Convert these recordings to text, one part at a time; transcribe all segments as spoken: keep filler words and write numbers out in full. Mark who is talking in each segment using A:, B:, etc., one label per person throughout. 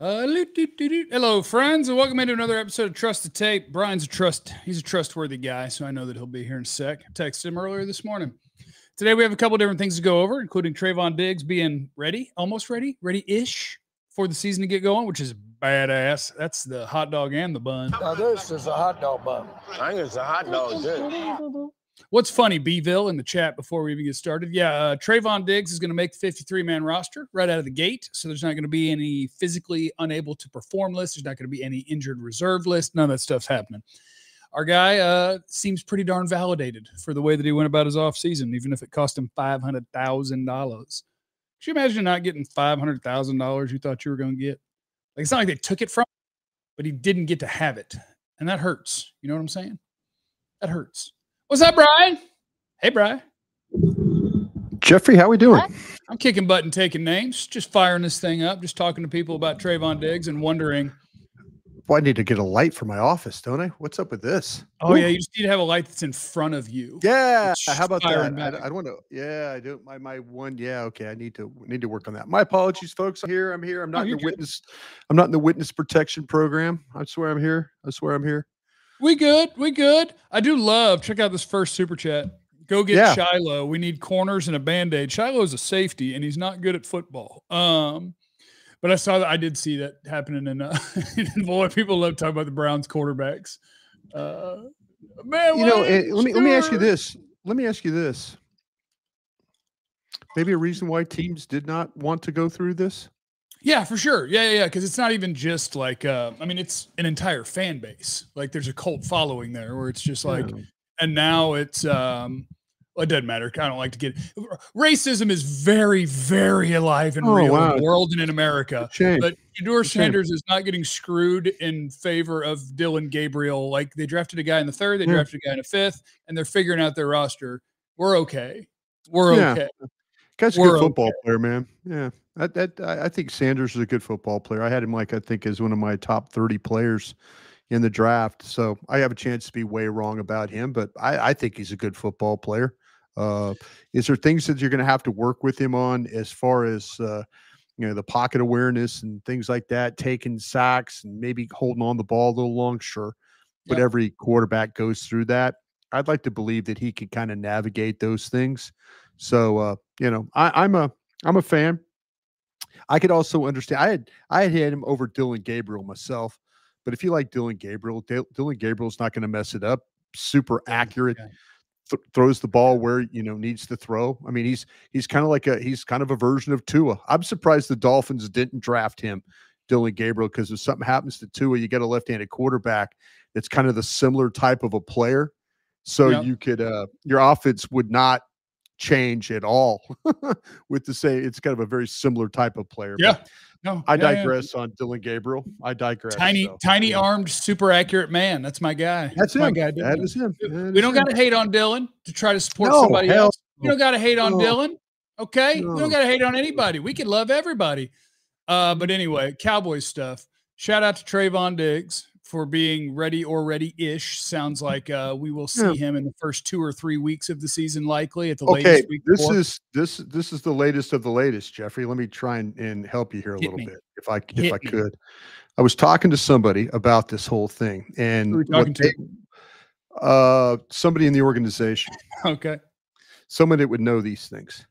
A: Uh, Hello, friends, and welcome into another episode of Trust the Tape. Brian's a trust. He's a trustworthy guy, so I know that he'll be here in a sec. I texted him earlier this morning. Today we have a couple different things to go over, including Trayvon Diggs being ready, almost ready, ready-ish for the season to get going, which is badass. That's the hot dog and the bun.
B: Now this is a hot dog bun.
C: I think it's a hot dog, too.
A: What's funny, Beeville, in the chat before we even get started, yeah, uh, Trayvon Diggs is going to make the fifty-three man roster right out of the gate, so there's not going to be any physically unable to perform list. There's not going to be any injured reserve list. None of that stuff's happening. Our guy uh, seems pretty darn validated for the way that he went about his offseason, even if it cost him five hundred thousand dollars. Could you imagine not getting five hundred thousand dollars you thought you were going to get? Like, it's not like they took it from him, but he didn't get to have it, and that hurts. You know what I'm saying? That hurts. What's up, Brian? Hey, Brian.
D: Jeffrey, how we doing?
A: I'm kicking butt and taking names, just firing this thing up, just talking to people about Trayvon Diggs and wondering.
D: Well, I need to get a light for my office, don't I? What's up with this?
A: Oh, Ooh. yeah, you just need to have a light that's in front of you.
D: Yeah, how about that? I, I don't want to. Yeah, I do. My my one. Yeah, okay. I need to need to work on that. My apologies, folks. I'm here. I'm here. I'm not oh, in the good. witness. I'm not in the witness protection program. I swear I'm here. I swear I'm here.
A: We good. We good. I do love, check out this first super chat. Go get yeah. Shiloh. We need corners and a Band-Aid. Shiloh's a safety, and he's not good at football. Um, but I saw that. I did see that happening in, uh, in boy, people love talking about the Browns quarterbacks. Uh, man,
D: you know, it, let me let me ask you this. Let me ask you this. Maybe a reason why teams did not want to go through this?
A: Yeah, for sure. Yeah, yeah, yeah. Because it's not even just like, uh, I mean, it's an entire fan base. Like, there's a cult following there where it's just like, yeah. and now it's, um, well, it doesn't matter. I don't like to get racism is very, very alive and oh, real wow. in the world and in America. But Shedeur Sanders is not getting screwed in favor of Dillon Gabriel. Like, they drafted a guy in the third, they yeah. drafted a guy in the fifth, and they're figuring out their roster. We're okay. We're
D: yeah.
A: okay.
D: Guy's a
A: We're
D: good football
A: okay.
D: player, man. Yeah. I, I, I think Sanders is a good football player. I had him, like, I think, as one of my top thirty players in the draft. So I have a chance to be way wrong about him, but I, I think he's a good football player. Uh, is there things that you're going to have to work with him on as far as, uh, you know, the pocket awareness and things like that, taking sacks and maybe holding on the ball a little long? Sure. But yep. every quarterback goes through that. I'd like to believe that he could kind of navigate those things. So, uh, you know, I, I'm a, I'm a fan. I could also understand. I had I had had him over Dillon Gabriel myself, but if you like Dillon Gabriel, D- Dillon Gabriel's not going to mess it up. Super accurate, th- throws the ball where you know needs to throw. I mean, he's he's kind of like a he's kind of a version of Tua. I'm surprised the Dolphins didn't draft him, Dillon Gabriel, because if something happens to Tua, you get a left-handed quarterback that's kind of the similar type of a player. So yep. you could uh, your offense would not change at all with the say it's kind of a very similar type of player.
A: Yeah.
D: But
A: no,
D: I
A: yeah,
D: digress
A: yeah.
D: on Dillon Gabriel. I digress.
A: Tiny,
D: so,
A: tiny
D: yeah.
A: armed, super accurate man. That's my guy.
D: That's,
A: That's my
D: him.
A: guy.
D: That is him. That
A: we
D: is
A: don't got to hate on Dillon to try to support
D: no,
A: somebody
D: hell
A: else.
D: no.
A: We don't got to hate on
D: no.
A: Dillon. Okay.
D: No.
A: We don't got to hate on anybody. We can love everybody. Uh, but anyway, Cowboys stuff. Shout out to Trayvon Diggs for being ready or ready-ish. Sounds like uh, we will see yeah. him in the first two or three weeks of the season, likely at the
D: okay,
A: latest week.
D: This
A: four.
D: is this this is the latest of the latest, Jeffrey. Let me try and, and help you here a
A: Hit
D: little
A: me.
D: bit, if I
A: Hit
D: if I
A: me.
D: could. I was talking to somebody about this whole thing, and
A: Who are we talking
D: they,
A: to?
D: Uh, somebody in the organization.
A: Okay,
D: someone that would know these things.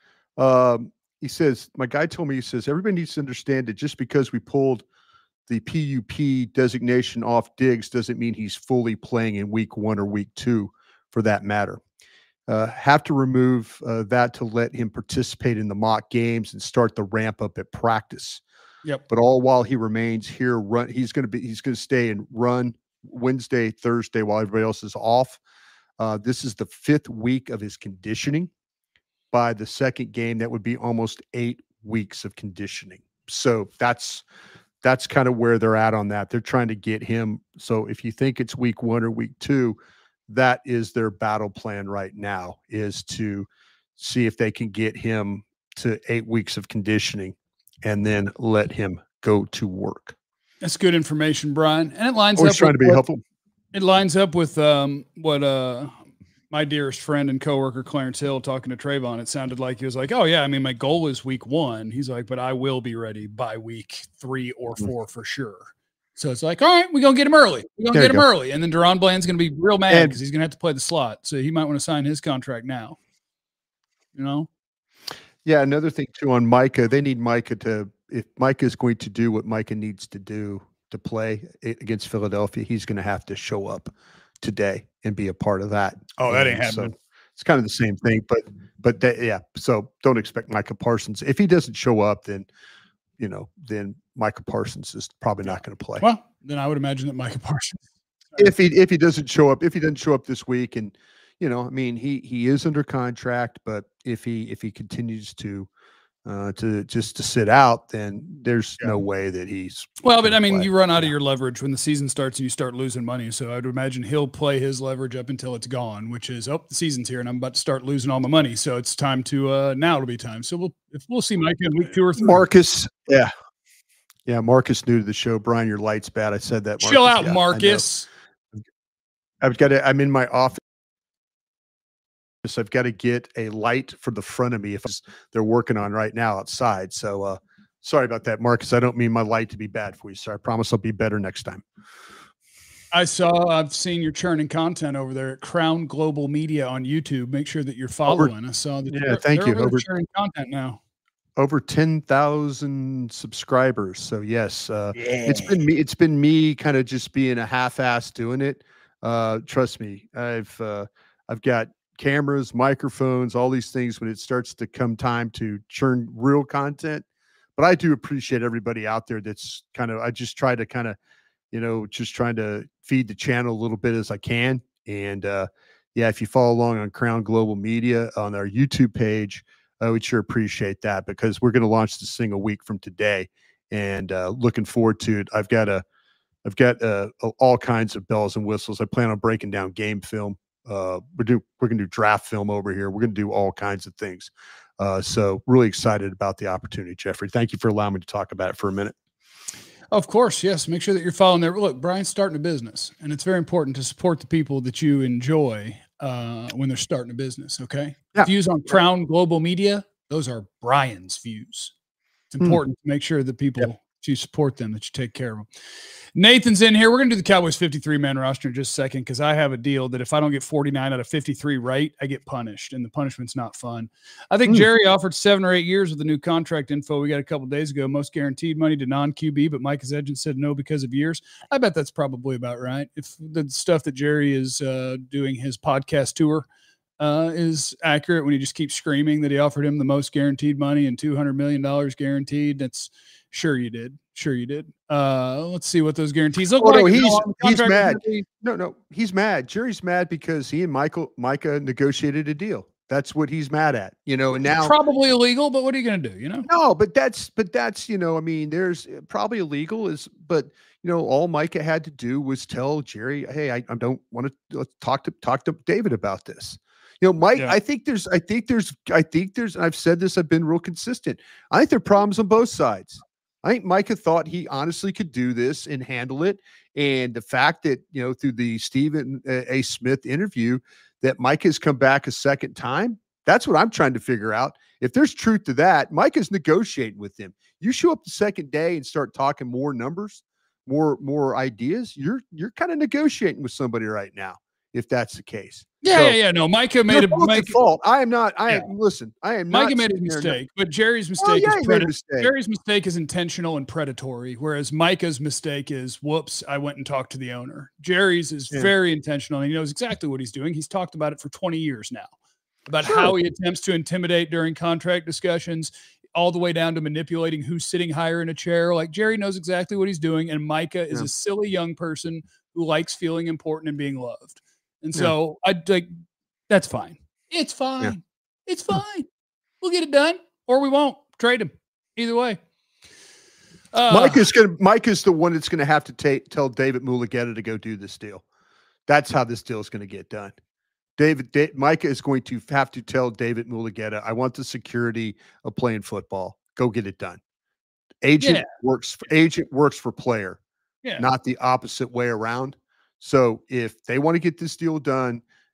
D: Um, he says, my guy told me, he says, everybody needs to understand that just because we pulled the P U P designation off Diggs doesn't mean he's fully playing in week one or week two, for that matter. Uh, have to remove uh, that to let him participate in the mock games and start the ramp up at practice.
A: Yep.
D: But all while he remains here, run. He's going to be. He's going to stay and run Wednesday, Thursday while everybody else is off. Uh, this is the fifth week of his conditioning. By the second game, that would be almost eight weeks of conditioning. So that's. That's kind of where they're at on that. They're trying to get him. So if you think it's week one or week two, that is their battle plan right now, is to see if they can get him to eight weeks of conditioning and then let him go to work.
A: That's good information, Brian. And it lines
D: Always
A: up
D: trying
A: with
D: to be
A: what,
D: helpful.
A: It lines up with um, what uh, my dearest friend and coworker Clarence Hill talking to Trayvon, it sounded like he was like, "Oh yeah, I mean, my goal is week one." He's like, "But I will be ready by week three or four for sure." So it's like, all right, we're gonna get him early. We're gonna
D: There
A: get
D: you
A: him
D: go.
A: early, and then Deron Bland's gonna be real mad
D: And-
A: because he's gonna have to play the slot. So he might want to sign his contract now. You know?
D: Yeah, another thing too on Micah, they need Micah to, if Micah is going to do what Micah needs to do to play a- against Philadelphia, he's going to have to show up today and be a part of that.
A: Oh, that ain't
D: And
A: happening.
D: So it's kind of the same thing, but but that, yeah. So don't expect Micah Parsons. If he doesn't show up, then you know, then Micah Parsons is probably not going to play.
A: Well, then I would imagine that Micah Parsons.
D: If he if he doesn't show up, if he doesn't show up this week, and you know, I mean, he he is under contract, but if he if he continues to uh to just to sit out, then there's
A: Yeah.
D: no way that he's
A: Well, but
D: gonna
A: I mean,
D: play.
A: you run out of your leverage when the season starts and you start losing money. So I would imagine he'll play his leverage up until it's gone, which is, oh, the season's here and I'm about to start losing all my money. So it's time to uh now it'll be time. So we'll if we'll see Micah in week two or three.
D: Marcus, yeah, yeah, Marcus new to the show. Brian, your light's bad. I said that.
A: Chill
D: Marcus.
A: out,
D: Yeah, I know.
A: Marcus.
D: I've got to, I'm in my office. I've got to get a light for the front of me if they're working on right now outside. So uh, sorry about that, Marcus. I don't mean my light to be bad for you. So I promise I'll be better next time.
A: I saw, I've seen your churning content over there at Crown Global Media on YouTube. Make sure that you're following. I saw that.
D: Yeah,
A: they're-
D: thank
A: they're
D: you.
A: over there
D: Over-
A: churning content now.
D: Over ten thousand subscribers. So yes, uh, it's been me. It's been me kind of just being a half-ass doing it. Uh, trust me, I've uh, I've got cameras, microphones, all these things when it starts to come time to churn real content. But I do appreciate everybody out there that's kind of, I just try to kind of, you know, just trying to feed the channel a little bit as I can. And uh, yeah, if you follow along on Crown Global Media on our YouTube page, I would sure appreciate that because we're going to launch this thing a week from today and uh, looking forward to it. I've got a, I've got uh, all kinds of bells and whistles. I plan on breaking down game film. Uh, we're do we're gonna do draft film over here. We're gonna do all kinds of things. Uh, so really excited about the opportunity, Jeffrey. Thank you for allowing me to talk about it for a minute.
A: Of course, yes. Make sure that you're following there. Look, Brian's starting a business, and it's very important to support the people that you enjoy uh, when they're starting a business. Okay.
D: Yeah.
A: Views on Crown Global Media, those are Brian's views. It's
D: Hmm.
A: important to make sure that people, that you support them, that you take care of them. Nathan's in here. We're going to do the Cowboys fifty-three man roster in just a second because I have a deal that if I don't get forty-nine out of fifty-three right, I get punished, and the punishment's not fun. I think
D: Hmm.
A: Jerry offered seven or eight years with the new contract info we got a couple days ago, most guaranteed money to non-Q B, but Mike Agent said no because of years. I bet that's probably about right. If the stuff that Jerry is uh, doing his podcast tour uh, is accurate when he just keeps screaming that he offered him the most guaranteed money and two hundred million dollars guaranteed, that's sure you did. Sure you did. Uh, let's see what those guarantees look
D: Oh,
A: like.
D: no,
A: No,
D: he's-
A: on the
D: he's
A: contract
D: mad.
A: is gonna be-
D: No, no, he's mad. Jerry's mad because he and Michael Micah negotiated a deal. That's what he's mad at, you know. And now,
A: Probably illegal, but what are you going to do? You know,
D: no, but that's but that's you know, I mean, there's uh, probably illegal is, but you know, all Micah had to do was tell Jerry, hey, I, I don't want to let's talk to talk to David about this. You know, Mike,
A: Yeah.
D: I think there's, I think there's, I think there's, and I've said this, I've been real consistent. I think there are problems on both sides. I think Micah thought he honestly could do this and handle it. And the fact that, you know, through the Stephen A. Smith interview, that Micah has come back a second time, that's what I'm trying to figure out. If there's truth to that, Micah's negotiating with him. You show up the second day and start talking more numbers, more, more ideas, you're, you're kind of negotiating with somebody right now, if that's the case.
A: yeah,
D: So,
A: yeah, yeah. No, Micah made
D: You're
A: a
D: both at
A: Mike,
D: fault. I am not, I
A: Yeah.
D: am, listen, I am not.
A: Micah made a
D: sitting there and-
A: mistake, but Jerry's
D: Oh,
A: mistake
D: yeah,
A: is
D: he made a
A: predator-
D: mistake.
A: Jerry's mistake is intentional and predatory, whereas Micah's mistake is, whoops, I went and talked to the owner. Jerry's is
D: Yeah.
A: very intentional, and he knows exactly what he's doing. He's talked about it for twenty years now, about
D: Sure.
A: how he attempts to intimidate during contract discussions, all the way down to manipulating who's sitting higher in a chair. Like, Jerry knows exactly what he's doing, and Micah is
D: Yeah.
A: a silly young person who likes feeling important and being loved. And
D: Yeah.
A: so I like that's fine. It's fine. It's fine. We'll get it done, or we won't trade him. Either way. Uh,
D: Mike is going to, Mike is the one that's going to have to take, tell David Mulugeta to go do this deal. That's how this deal is going to get done. David, da- Micah is going to have to tell David Mulugeta, I want the security of playing football. Go get it done. Agent
A: Yeah.
D: works, for, agent works for player,
A: yeah.
D: not the opposite way around. So if they want to get this deal done,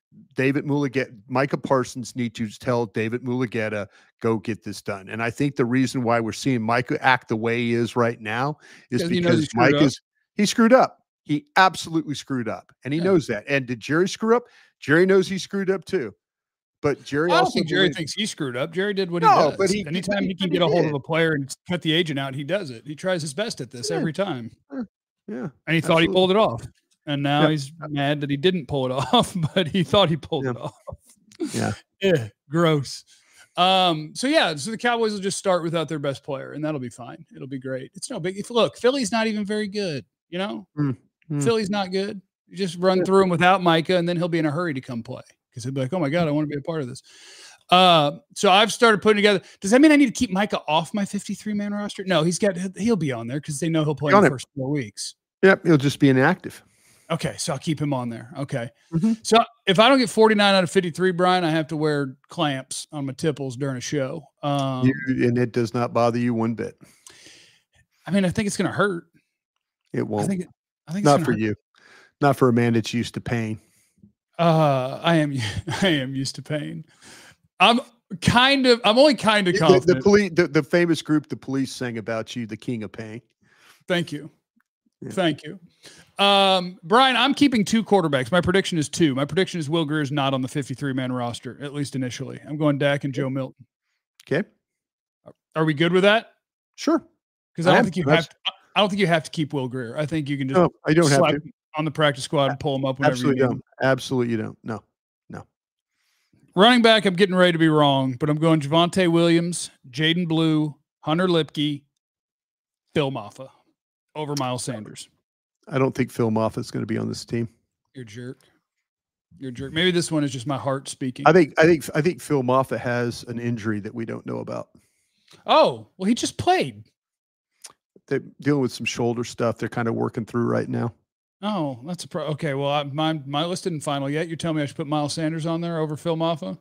D: David Mulugeta, Micah Parsons need to tell David Mulugeta, go get this done. And I think the reason why we're seeing Micah act the way he is right now is
A: Because he knows he
D: because
A: screwed
D: Mike
A: up.
D: is he screwed up. He absolutely screwed up, and he
A: Yeah.
D: knows that. And did Jerry screw up? Jerry knows he screwed up too. But Jerry
A: I don't
D: also
A: think Jerry
D: believes-
A: thinks he screwed up. Jerry did what
D: No,
A: he does.
D: but he-
A: Anytime
D: but he-
A: he can
D: but
A: get
D: he
A: a hold
D: did.
A: of a player and cut the agent out, he does it. He tries his best at this
D: Yeah.
A: every time.
D: yeah.
A: And he thought he
D: Absolutely.
A: pulled it off. And now
D: Yep.
A: he's mad that he didn't pull it off, but he thought he pulled
D: Yeah.
A: it off.
D: Yeah.
A: Yeah, gross. Um, so yeah, so the Cowboys will just start without their best player, and that'll be fine. It'll be great. It's no big. If look, Philly's not even very good. You know,
D: Mm, mm.
A: Philly's not good. You just run through him without Micah, and then he'll be in a hurry to come play because he'll be like, "Oh my god, I want to be a part of this." Uh, so I've started putting together. Does that mean I need to keep Micah off my fifty-three man roster? No, he's got. He'll be on there because they know he'll play in
D: On
A: the
D: it.
A: first four weeks.
D: Yep. He'll just be inactive.
A: Okay, so I'll keep him on there. Okay.
D: Mhm.
A: So if I don't get forty-nine out of fifty-three, Brian, I have to wear clamps on my tipples during a show. Um,
D: You, and it does not bother you one bit.
A: I mean, I think it's going to hurt.
D: It
A: I
D: won't.
A: think, it- I think it's
D: Not
A: gonna
D: for
A: hurt.
D: you. Not for a man that's used to pain.
A: Uh, I am, I am used to pain. I'm kind of, I'm only kind of
D: The,
A: confident.
D: the police, the, the famous group, the police, sang about you, the king of pain.
A: Thank you.
D: Yeah.
A: Thank you. Um, Brian, I'm keeping two quarterbacks. My prediction is two. My prediction is Will Greer is not on the fifty-three man roster, at least initially. I'm going Dak and Joe Milton.
D: Okay.
A: Are we good with that?
D: Sure.
A: Because I
D: I
A: don't
D: am.
A: think you
D: That's-
A: have to, I don't think you have to keep Will Greer. I think you can just
D: No, I don't have
A: slap
D: to.
A: him on the practice squad and pull him up whenever
D: Absolutely
A: you need
D: don't.
A: him.
D: Absolutely you don't. No.
A: Running back, I'm getting ready to be wrong, but I'm going Javonte Williams, Jaden Blue, Hunter Lipke, Phil Maffa over Miles Sanders.
D: I don't think Phil Moffitt's going to be on this team.
A: You're a jerk. You're a jerk. Maybe this one is just my heart speaking.
D: I think I think I think Phil Moffitt has an injury that we don't know about.
A: Oh, well, he just played.
D: They're dealing with some shoulder stuff they're kind of working through right now.
A: Oh, that's a pro. Okay, well, I, my my list isn't final yet. You're telling me I should put Miles Sanders on there over Phil Maffa?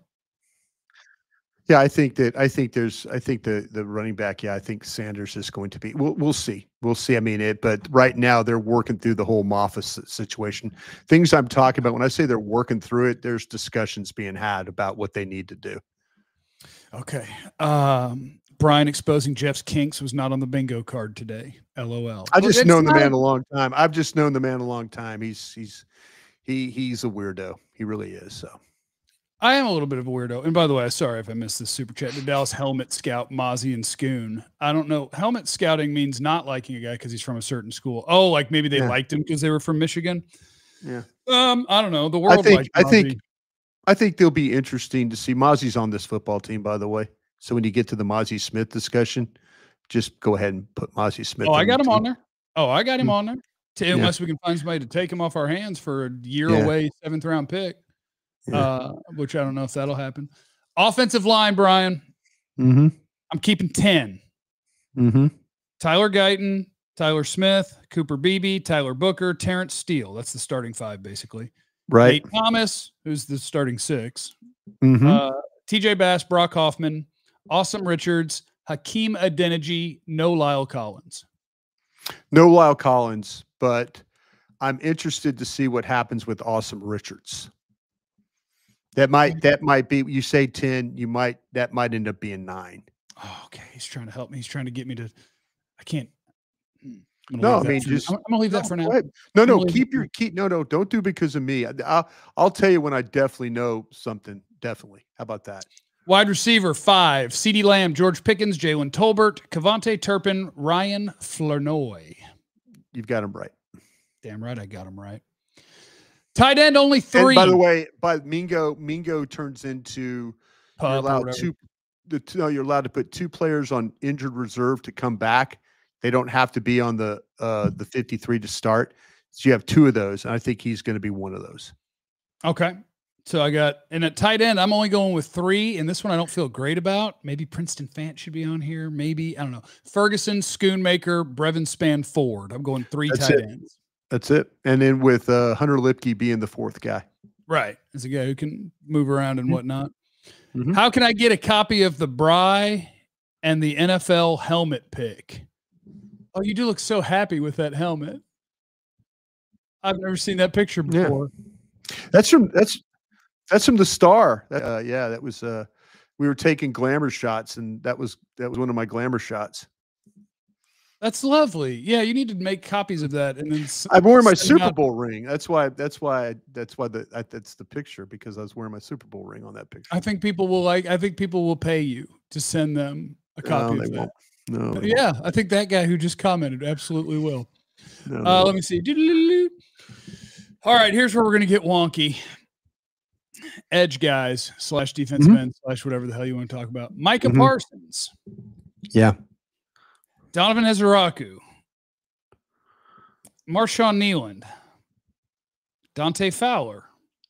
D: Yeah, I think that I think there's I think the the running back. Yeah, I think Sanders is going to be. We'll we'll see. We'll see. I mean it, but right now they're working through the whole Moffitt s- situation. Things I'm talking about when I say they're working through it, there's discussions being had about what they need to do.
A: Okay. Um, Brian exposing Jeff's kinks was not on the bingo card today. L O L.
D: I just
A: It's
D: known the
A: not-
D: man a long time. I've just known the man a long time. He's he's he he's a weirdo. He really is. So
A: I am a little bit of a weirdo. And by the way, sorry if I missed this super chat. The Dallas Helmet Scout, Mozzie and Scoon. I don't know. Helmet scouting means not liking a guy because he's from a certain school. Oh, like maybe they
D: Yeah.
A: liked him because they were from Michigan.
D: yeah.
A: Um, I don't know. The world.
D: think-
A: liked
D: I think-
A: Mozzie.
D: I think they'll be interesting to see. Mozzie's on this football team, by the way. So when you get to the Mozzie Smith discussion, just go ahead and put Mozzie Smith.
A: Oh, I got
D: the
A: him on
D: team.
A: there. Oh, I got him
D: Mm.
A: on there. To,
D: Yeah.
A: unless we can find somebody to take him off our hands for a year
D: Yeah.
A: away seventh round pick.
D: Yeah.
A: Uh, which I don't know if that'll happen. Offensive line, Brian.
D: Mm-hmm.
A: I'm keeping ten.
D: Mm-hmm.
A: Tyler Guyton, Tyler Smith, Cooper Beebe, Tyler Booker, Terrence Steele. That's the starting five, basically.
D: Right.
A: Nate Thomas, who's the starting six.
D: Mm-hmm.
A: Uh, T J Bass, Brock Hoffman, Awesome Richards, Hakeem Adeniji, no Lyle Collins.
D: No Lyle Collins, but I'm interested to see what happens with Awesome Richards. That might that might be you say ten, you might that might end up being nine.
A: Oh, okay. He's trying to help me. He's trying to get me to. I can't. hmm, I'm gonna
D: No,
A: leave
D: I
A: that
D: mean,
A: for-
D: just-
A: I'm, I'm gonna leave that for
D: No,
A: now.
D: go ahead. No, no,
A: Really-
D: keep your keep no, no, don't do because of me. I- I'll I'll tell you when I definitely know something. Definitely. How about that?
A: Wide receiver five: CeeDee Lamb, George Pickens, Jalen Tolbert, Cavante Turpin, Ryan Flournoy.
D: You've got him right.
A: Damn right, I got him right. Tight end only three.
D: And by the way, by Mingo, Mingo turns into
A: Pup
D: you're
A: or
D: allowed
A: whatever.
D: two. The two, no, you're allowed to put two players on injured reserve to come back. They don't have to be on the uh, the fifty-three to start. So you have two of those, and I think he's going to be one of those.
A: Okay. So I got, and at tight end, I'm only going with three. And this one I don't feel great about. Maybe Princeton Fant should be on here. Maybe, I don't know. Ferguson, Schoonmaker, Brevin Span Ford. I'm going three
D: That's
A: tight
D: it.
A: ends.
D: That's it. And then with uh, Hunter Lipke being the fourth guy.
A: Right. As a guy who can move around and
D: Mhm.
A: whatnot.
D: Mhm.
A: How can I get a copy of the Bry and the N F L helmet pick? Oh, you do look so happy with that helmet. I've never seen that picture
D: Yeah.
A: before.
D: That's from that's That's from the Star. Uh, yeah, that was. Uh, we were taking glamour shots, and that was that was one of my glamour shots.
A: That's lovely. Yeah, you need to make copies of that, and then s-
D: I'm wearing my
A: send them
D: Super
A: out.
D: Bowl ring. That's why. That's why. That's why the I, that's the picture because I was wearing my Super Bowl ring on that picture.
A: I think people will like. I think people will pay you to send them a copy
D: No,
A: of
D: they
A: that.
D: won't. No.
A: But
D: they
A: yeah, I think that guy who just commented absolutely will.
D: won't. No, they
A: Uh, let
D: won't.
A: me see. Doodle-doo-doo. All right, here's where we're gonna get wonky. Edge guys slash defensive
D: Mhm.
A: end slash whatever the hell you want to talk about. Micah
D: Mhm.
A: Parsons,
D: Yeah.
A: Donovan Ezeraku, Marshawn Nealand, Dante Fowler,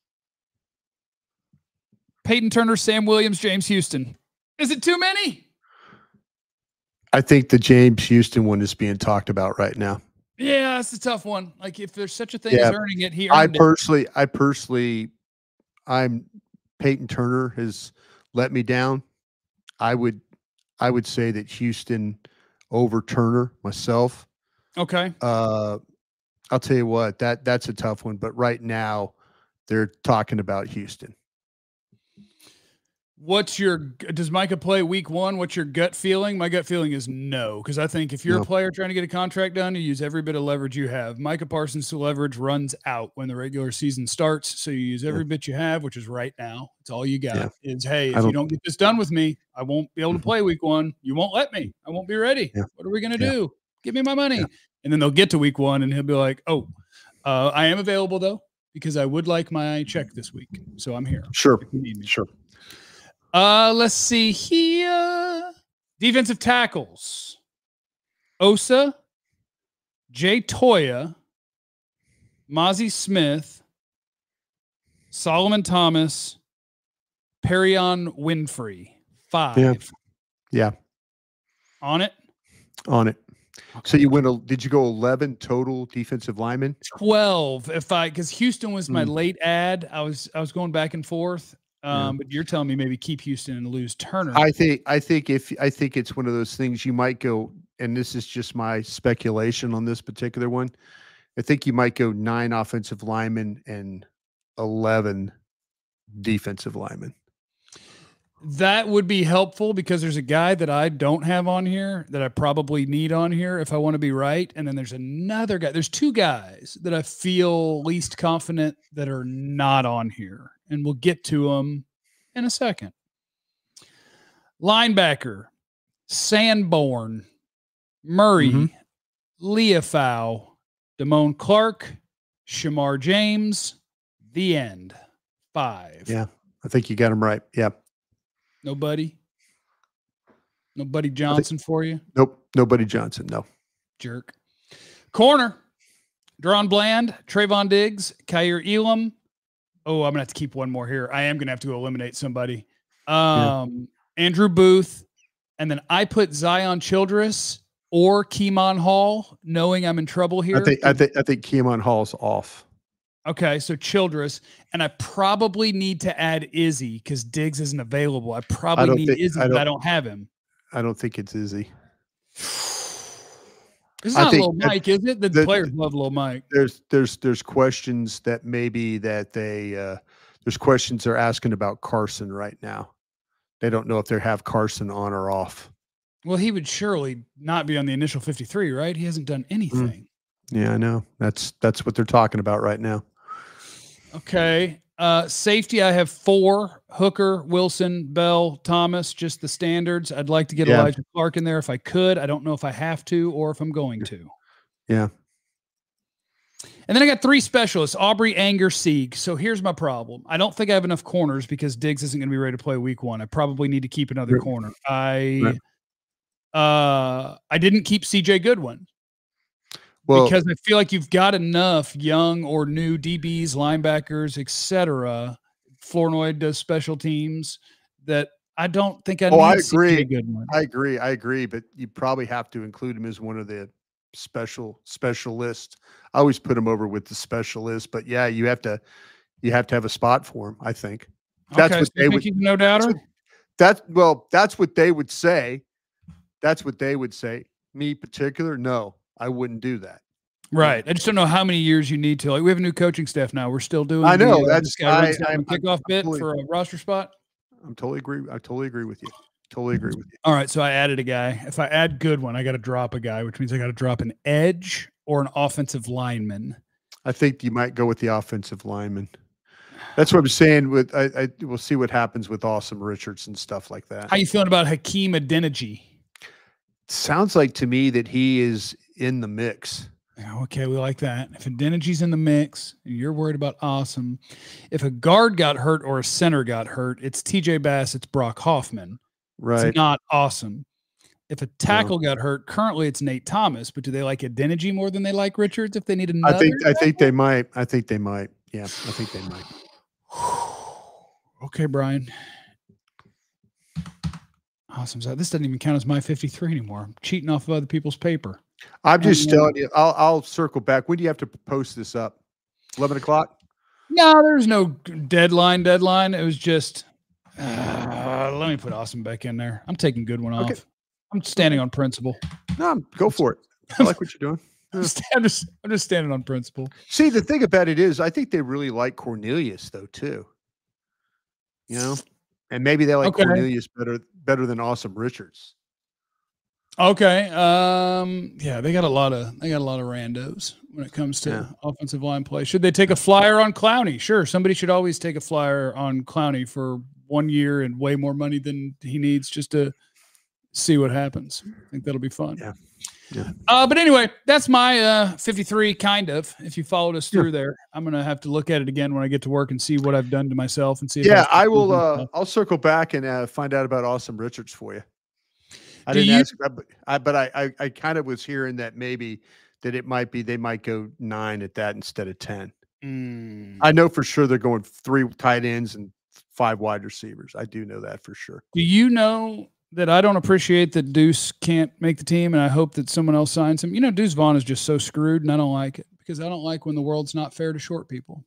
A: Peyton Turner, Sam Williams, James Houston. Is it too many?
D: I think the James Houston one is being talked about right now.
A: Yeah, that's a tough one. Like if there's such a thing
D: Yeah.
A: as earning it, he
D: I
A: earned it.
D: personally, I personally, I'm Peyton Turner has let me down. I would, I would say that Houston over Turner myself.
A: Okay.
D: Uh, I'll tell you what, that that's a tough one. But right now, they're talking about Houston.
A: What's your does Micah play week one? What's your gut feeling? My gut feeling is no, because I think if you're
D: No.
A: a player trying to get a contract done, you use every bit of leverage you have. Micah Parsons' leverage runs out when the regular season starts, so you use every
D: Yeah.
A: bit you have, which is right now. It's all you got.
D: Yeah.
A: Is hey,
D: I
A: if you
D: don't-
A: don't get this done with me, I won't be able to
D: Mhm.
A: play week one. You won't let me. I won't be ready.
D: Yeah.
A: What are we gonna
D: Yeah.
A: do? Give me my money.
D: Yeah.
A: And then they'll get to week one, and he'll be like, "Oh, uh, I am available though because I would like my check this week, so I'm here
D: Sure,
A: if you need me."
D: sure.
A: Uh, let's see here. Defensive tackles. Osa, Jay Toya, Mozzie Smith, Solomon Thomas, Perion Winfrey. Five.
D: Yeah. Yeah,
A: On it.
D: on it. So you went. a- Did you go eleven total defensive linemen?
A: twelve. If I because Houston was my
D: Mm.
A: late ad. I was I was going back and forth. Um,
D: Yeah.
A: but you're telling me maybe keep Houston and lose Turner.
D: I think. I think if I think it's one of those things you might go, and this is just my speculation on this particular one. I think you might go nine offensive linemen and eleven defensive linemen.
A: That would be helpful because there's a guy that I don't have on here that I probably need on here if I want to be right. And then there's another guy. There's two guys that I feel least confident that are not on here. And we'll get to them in a second. Linebacker, Sanborn, Murray,
D: Mhm.
A: Leafau, Damone Clark, Shamar James, the end. Five.
D: Yeah, I think you got them right. Yeah.
A: Nobody? Nobody Johnson for you?
D: Nope. Nobody Johnson. No.
A: Jerk. Corner. Deron Bland, Trayvon Diggs, Kyer Elam. Oh, I'm going to have to keep one more here. I am going to have to eliminate somebody. Um, Andrew Booth. And then I put Zion Childress or Keemon Hall, knowing I'm in trouble here.
D: I think. I think. I think Keemon Hall's off.
A: Okay, so Childress. And I probably need to add Izzy because Diggs isn't available. I probably
D: don't
A: need
D: think-
A: Izzy,
D: I
A: but I
D: don't-
A: don't have him.
D: I don't think it's Izzy.
A: It's
D: I
A: not
D: think
A: Lil
D: that-
A: Mike, is it? The,
D: the-
A: players love Lil Mike.
D: There's there's there's questions that maybe that they uh, there's questions they're asking about Carson right now. They don't know if they have Carson on or off.
A: Well, he would surely not be on the initial fifty-three, right? He hasn't done anything.
D: Yeah, I know. That's that's what they're talking about right now.
A: Okay. Uh, safety, I have four: Hooker, Wilson, Bell, Thomas, just the standards. I'd like to get
D: Yeah.
A: Elijah Clark in there if I could. I don't know if I have to or if I'm going to.
D: Yeah.
A: And then I got three specialists: Aubrey, Anger, Sieg. So here's my problem. I don't think I have enough corners because Diggs isn't going to be ready to play week one. I probably need to keep another
D: Right.
A: corner. I
D: Right.
A: uh I didn't keep C J Goodwin.
D: Well,
A: Because I feel like you've got enough young or new D Bs, linebackers, et cetera. Flournoy does special teams that I don't think I
D: Oh,
A: need
D: I
A: C J
D: agree.
A: Goodwin.
D: I agree. I agree. But you probably have to include him as one of the special specialists. I always put him over with the specialist. But yeah, you have to you have to have a spot for him. I think that's
A: okay,
D: what
A: so
D: they
A: you
D: would.
A: think he's a no doubter?
D: That's well. That's what they would say. That's what they would say. Me particular, no, I wouldn't do that.
A: Right. I just don't know how many years you need to. Like, we have a new coaching staff now. We're still doing.
D: I know
A: the, uh,
D: that's
A: this guy runs
D: I,
A: down
D: I,
A: the kickoff
D: I'm
A: bit
D: totally,
A: for a roster spot.
D: I'm totally agree. I totally agree with you. Totally agree with you.
A: All right, so I added a guy. If I add Goodwin, I got to drop a guy, which means I got to drop an edge or an offensive lineman.
D: I think you might go with the offensive lineman. That's what I'm saying. With I, I we'll see what happens with Awesome Richards and stuff like that.
A: How you feeling about Hakeem Adeniji?
D: Sounds like to me that he is in the mix.
A: Okay, we like that. If Adeniji's in the mix, and you're worried about Awesome. If a guard got hurt or a center got hurt, it's T J Bass, it's Brock Hoffman.
D: Right.
A: It's not Awesome. If a tackle no. got hurt, currently it's Nate Thomas, but do they like Adeniji more than they like Richards if they need another?
D: I think I think they might. I think they might. Yeah, I think they might.
A: Okay, Brian. Awesome. So this doesn't even count as my fifty-three anymore. I'm cheating off of other people's paper.
D: I'm just
A: and,
D: telling you. I'll I'll circle back. When do you have to post this up? Eleven o'clock.
A: No, there's no deadline. Deadline. It was just. Uh, let me put Awesome back in there. I'm taking Goodwin off.
D: Okay.
A: I'm standing on principle.
D: No, go for it. I like what you're doing.
A: I'm, just, I'm just I'm just standing on principle.
D: See, the thing about it is, I think they really like Cornelius though too. You know, and maybe they like
A: okay.
D: Cornelius better better than Awesome Richards.
A: Okay. Um, yeah, they got a lot of they got a lot of randos when it comes to
D: yeah.
A: offensive line play. Should they take a flyer on Clowney? Sure. Somebody should always take a flyer on Clowney for one year and way more money than he needs just to see what happens. I think that'll be fun.
D: Yeah. Yeah.
A: Uh, but anyway, that's my uh, fifty-three, kind of. If you followed us through
D: yeah.
A: there, I'm gonna have to look at it again when I get to work and see what I've done to myself and see. If
D: yeah, I will. Uh, I'll circle back and uh, find out about Awesome Richards for you. I
A: Do
D: didn't
A: you,
D: ask, but I, but I, I, I kind of was hearing that maybe that it might be they might go nine at that instead of ten.
A: Mm.
D: I know for sure they're going three tight ends and five wide receivers. I do know that for sure.
A: Do you know that I don't appreciate that Deuce can't make the team, and I hope that someone else signs him? You know, Deuce Vaughn is just so screwed, and I don't like it because I don't like when the world's not fair to short people.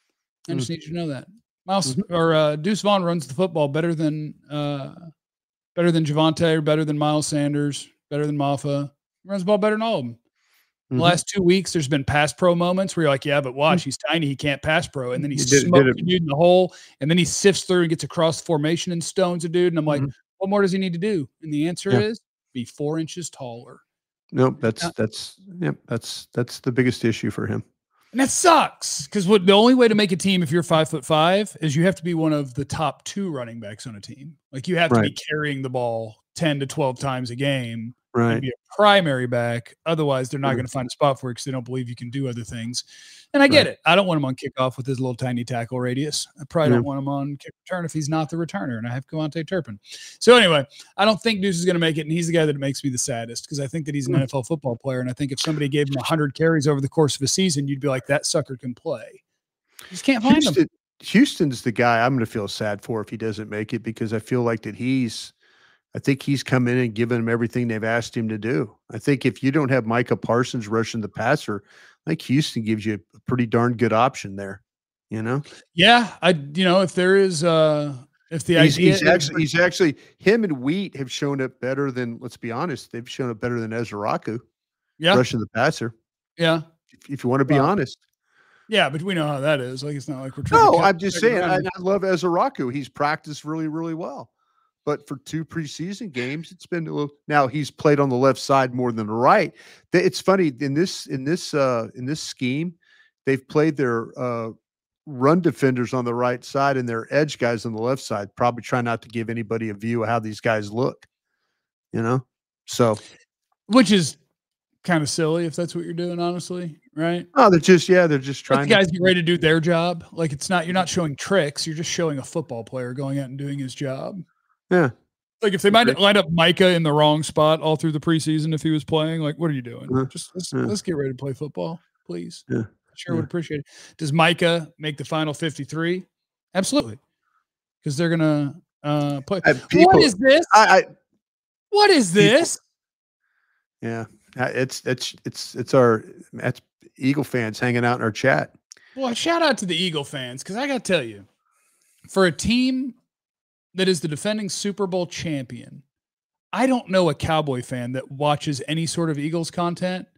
A: I just mm. need you to know that. Miles mm-hmm. or uh, Deuce Vaughn runs the football better than uh, better than Javonte, or better than Miles Sanders, better than Maffa. He runs the ball better than all of them. Mm-hmm. The last two weeks, there's been pass pro moments where you're like, yeah, but watch, he's tiny, he can't pass pro. And then he, he smokes a dude in the hole, and then he sifts through and gets across the formation and stones a dude. And I'm like, mm-hmm. what more does he need to do? And the answer yeah. is be four inches taller.
D: No, that's yeah. that's yeah, that's that's the biggest issue for him.
A: And that sucks because what the only way to make a team if you're five foot five is you have to be one of the top two running backs on a team. Like you have to right. be carrying the ball ten to twelve times a game.
D: Right.
A: And be a primary back. Otherwise, they're not mm-hmm. going to find a spot for it because they don't believe you can do other things. And I get right. it. I don't want him on kickoff with his little tiny tackle radius. I probably yeah. don't want him on kick return if he's not the returner, and I have Kevontae Turpin. So anyway, I don't think Deuce is going to make it, and he's the guy that makes me the saddest because I think that he's an mm-hmm. N F L football player, and I think if somebody gave him one hundred carries over the course of a season, you'd be like, that sucker can play. You just can't find
D: Houston,
A: him.
D: Houston's the guy I'm going to feel sad for if he doesn't make it because I feel like that he's – I think he's come in and given them everything they've asked him to do. I think if you don't have Micah Parsons rushing the passer, I think Houston gives you a pretty darn good option there, you know?
A: Yeah. I, you know, if there is, uh, if the
D: he's,
A: idea
D: he's
A: is,
D: actually, he's actually, him and Wheat have shown up better than, let's be honest, they've shown up better than Ezraku
A: yeah.
D: rushing the passer.
A: Yeah.
D: If, if you want to be well, honest.
A: Yeah, but we know how that is. Like, it's not like we're trying
D: No,
A: to
D: I'm just saying, I, I love Ezraku. He's practiced really, really well. But for two preseason games, it's been a little. Now he's played on the left side more than the right. It's funny in this in this uh, in this scheme, they've played their uh, run defenders on the right side and their edge guys on the left side. Probably try not to give anybody a view of how these guys look. You know, so
A: which is kind of silly if that's what you're doing, honestly, right?
D: Oh, they're just yeah, they're just trying.
A: Let the guys to, get ready to do their job. Like it's not you're not showing tricks. You're just showing a football player going out and doing his job.
D: Yeah.
A: Like if they might line up Micah in the wrong spot all through the preseason if he was playing, like what are you doing? Uh, Just let's, yeah. let's get ready to play football, please.
D: Yeah.
A: I sure
D: yeah.
A: would appreciate it. Does Micah make the final fifty-three? Absolutely. Because they're gonna uh play. Uh, people, what is this?
D: I, I
A: what is this?
D: People, yeah. It's it's it's it's our that's Eagle fans hanging out in our chat.
A: Well, shout out to the Eagle fans, because I gotta tell you, for a team that is the defending Super Bowl champion, I don't know a Cowboy fan that watches any sort of Eagles content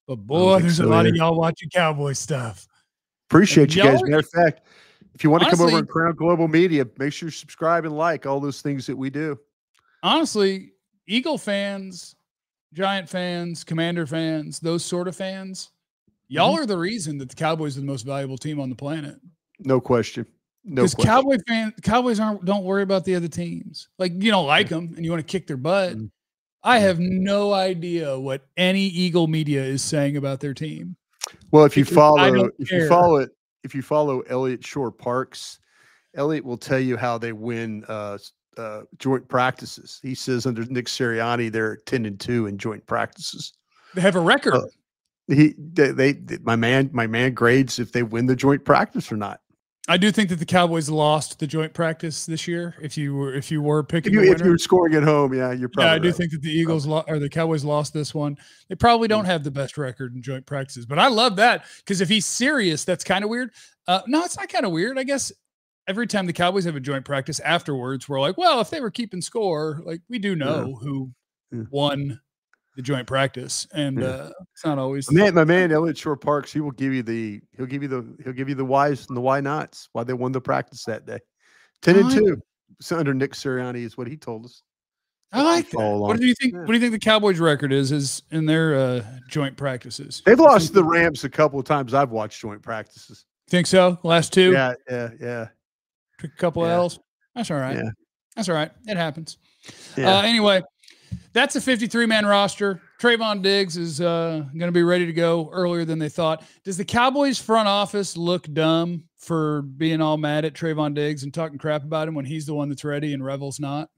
A: But boy, there's
D: so,
A: a lot
D: yeah.
A: of y'all watching Cowboy stuff.
D: Appreciate you guys.
A: Y'all are-
D: Matter of fact, if you want to come over
A: Honestly-
D: and Crown Global Media, make sure you subscribe and like all those things that we do.
A: Honestly, Eagle fans, Giant fans, Commander fans, those sort of fans, y'all
D: Mhm.
A: are the reason that the Cowboys are the most valuable team on the planet.
D: No question. No
A: Because
D: question.
A: Cowboy fan, Cowboys aren't don't worry about the other teams. Like you don't like them and you want to kick their butt.
D: Mhm.
A: I have no idea what any Eagle media is saying about their team.
D: Well, if you
A: Because I
D: follow,
A: don't
D: if
A: care.
D: you follow it, if you follow Elliott Shore Parks, Elliott will tell you how they win uh, s- uh, joint practices. He says under Nick Sirianni, they're ten and two in joint practices.
A: They have a record.
D: Uh, He, they, they, my man, my man grades if they win the joint practice or not.
A: I do think that the Cowboys lost the joint practice this year. If you were if you were
D: If
A: picking
D: you,
A: a
D: if
A: winner.
D: you were scoring at home, yeah, you're probably
A: Yeah, I do
D: right.
A: think that the Eagles lo- or the Cowboys lost this one. They probably don't have the best record in joint practices, but I love that because if he's serious, that's kind of weird. Uh, no, it's not kind of weird. I guess every time the Cowboys have a joint practice afterwards, we're like, well, if they were keeping score, like we do know who
D: Yeah.
A: won the joint practice, and
D: Yeah.
A: uh, it's not always.
D: My man, my man, Elliott Shore Parks, he will give you the, he'll give you the, he'll give you the whys and the why nots, why they won the practice that day. ten and
A: I-
D: two. So under Nick Sirianni is what he told us.
A: I like that.
D: Follow
A: What
D: along.
A: do you think?
D: Yeah.
A: What do you think the Cowboys' record is? Is in their uh, joint practices?
D: They've lost to the Rams a couple of times. I've watched joint practices.
A: Think so? Last two.
D: Yeah, yeah, yeah.
A: Took a couple of
D: Yeah.
A: L's. That's all right.
D: Yeah.
A: That's all right. It happens.
D: Yeah.
A: Uh, anyway, that's a fifty-three man roster. Trayvon Diggs is uh, going to be ready to go earlier than they thought. Does the Cowboys front office look dumb for being all mad at Trayvon Diggs and talking crap about him when he's the one that's ready and Revel's not?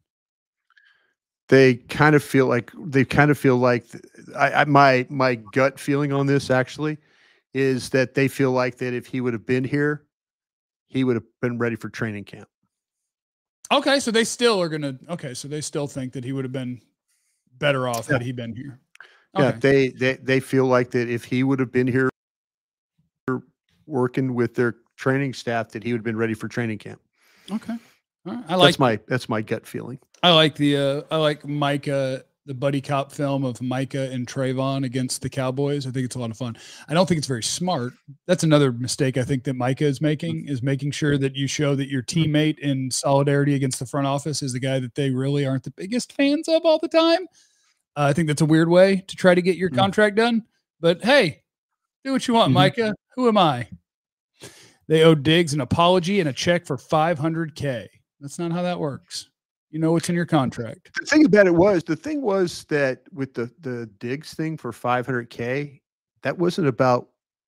D: They kind of feel like they kind of feel like th- I, I my my gut feeling on this actually is that they feel like that if he would have been here, he would have been ready for training camp.
A: Okay, so they still are going to. Okay, so they still think that he would have been better off had he been here.
D: Yeah,
A: Okay.
D: they they they feel like that if he would have been here working with their training staff, that he would have been ready for training camp.
A: Okay. All right. I like
D: That's my that's my gut feeling.
A: I like the uh, I like Micah, the buddy cop film of Micah and Trayvon against the Cowboys. I think it's a lot of fun. I don't think it's very smart. That's another mistake I think that Micah is making is making sure that you show that your teammate in solidarity against the front office is the guy that they really aren't the biggest fans of all the time. Uh, I think that's a weird way to try to get your
D: Mm.
A: contract done. But hey, do what you want,
D: Mhm.
A: Micah. Who am I? They owe Diggs an apology and a check for five hundred K. That's not how that works. You know what's in your contract.
D: The thing about it was the thing was that with the the Diggs thing for five hundred K, that wasn't about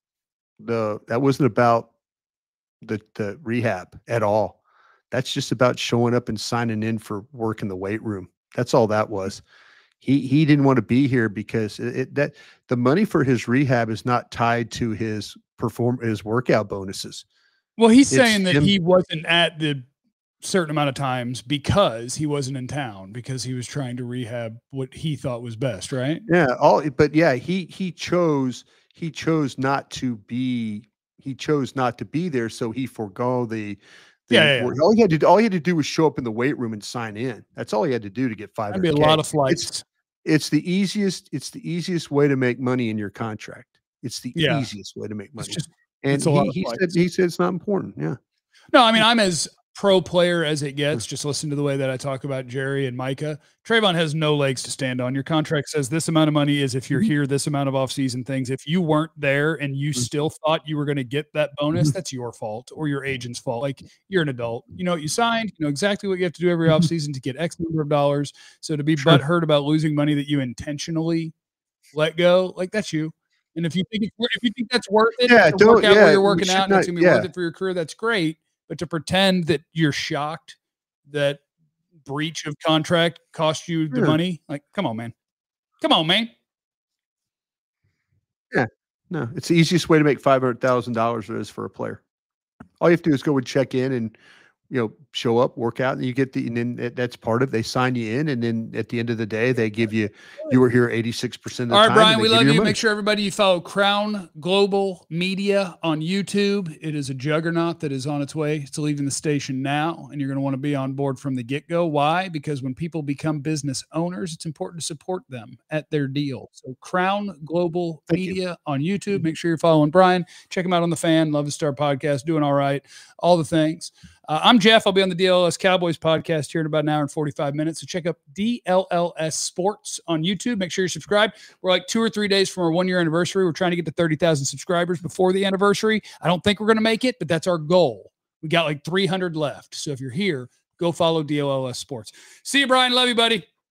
D: the that wasn't about the the rehab at all. That's just about showing up and signing in for work in the weight room. That's all that was. He he didn't want to be here because it, it that the money for his rehab is not tied to his perform his workout bonuses.
A: Well, he's
D: It's
A: saying that
D: him-
A: he wasn't at the certain amount of times because he wasn't in town because he was trying to rehab what he thought was best, right?
D: Yeah, all but yeah, he he chose he chose not to be he chose not to be there, so he forego the, the
A: Yeah, yeah, yeah.
D: work. All he had to do, all he had to do was show up in the weight room and sign in. That's all he had to do to get five
A: That'd be
D: hundred.
A: a lot of flights.
D: It's it's the easiest it's the easiest way to make money in your contract. It's the
A: Yeah.
D: easiest way to make
A: It's
D: money.
A: just
D: and
A: it's a lot
D: he,
A: of
D: he said
A: flights.
D: he said it's not important. Yeah.
A: no. I mean, I'm as pro player as it gets. Just listen to the way that I talk about Jerry and Micah. Trayvon has no legs to stand on. Your contract says this amount of money is if you're
D: Mhm.
A: here, this amount of offseason things. If you weren't there and you
D: Mhm.
A: still thought you were going to get that bonus,
D: Mhm.
A: that's your fault or your agent's fault. Like you're an adult. You know what you signed. You know exactly what you have to do every
D: Mhm.
A: offseason to get X number of dollars. So to be
D: Sure.
A: butthurt about losing money that you intentionally let go, like that's you. And if you think it's, wor- if you think that's worth it,
D: Yeah,
A: to
D: don't-
A: work out
D: yeah,
A: where you're
D: we
A: working
D: should
A: out, and it's
D: not-
A: gonna be
D: yeah.
A: worth it for your career, that's great. But to pretend that you're shocked that breach of contract cost you the
D: Yeah.
A: money, like, come on, man. Come on, man.
D: No, it's the easiest way to make five hundred thousand dollars there is for a player. All you have to do is go and check in and you know, show up, work out, and you get the, and then that- that's part of, they sign you in. And then at the end of the day, they give you, you were here eighty-six percent of the
A: All right,
D: time.
A: Brian,
D: and
A: we
D: they give
A: love
D: your
A: you.
D: money.
A: Make sure everybody you follow Crown Global Media on YouTube. It is a juggernaut that is on its way to leaving the station now, and you're going to want to be on board from the get-go. Why? Because when people become business owners, it's important to support them at their deal. So Crown Global
D: Thank you.
A: Media on YouTube. Make sure you're following Brian. Check him out on the Fan, Love the Star podcast, doing all right, all the things. Uh, I'm Jeff. I'll be on the D L L S Cowboys podcast here in about an hour and forty-five minutes. So check out D L L S Sports on YouTube. Make sure you're subscribed. We're like two or three days from our one-year anniversary. We're trying to get to thirty thousand subscribers before the anniversary. I don't think we're going to make it, but that's our goal. We got like three hundred left. So if you're here, go follow D L L S Sports. See you, Brian. Love you, buddy.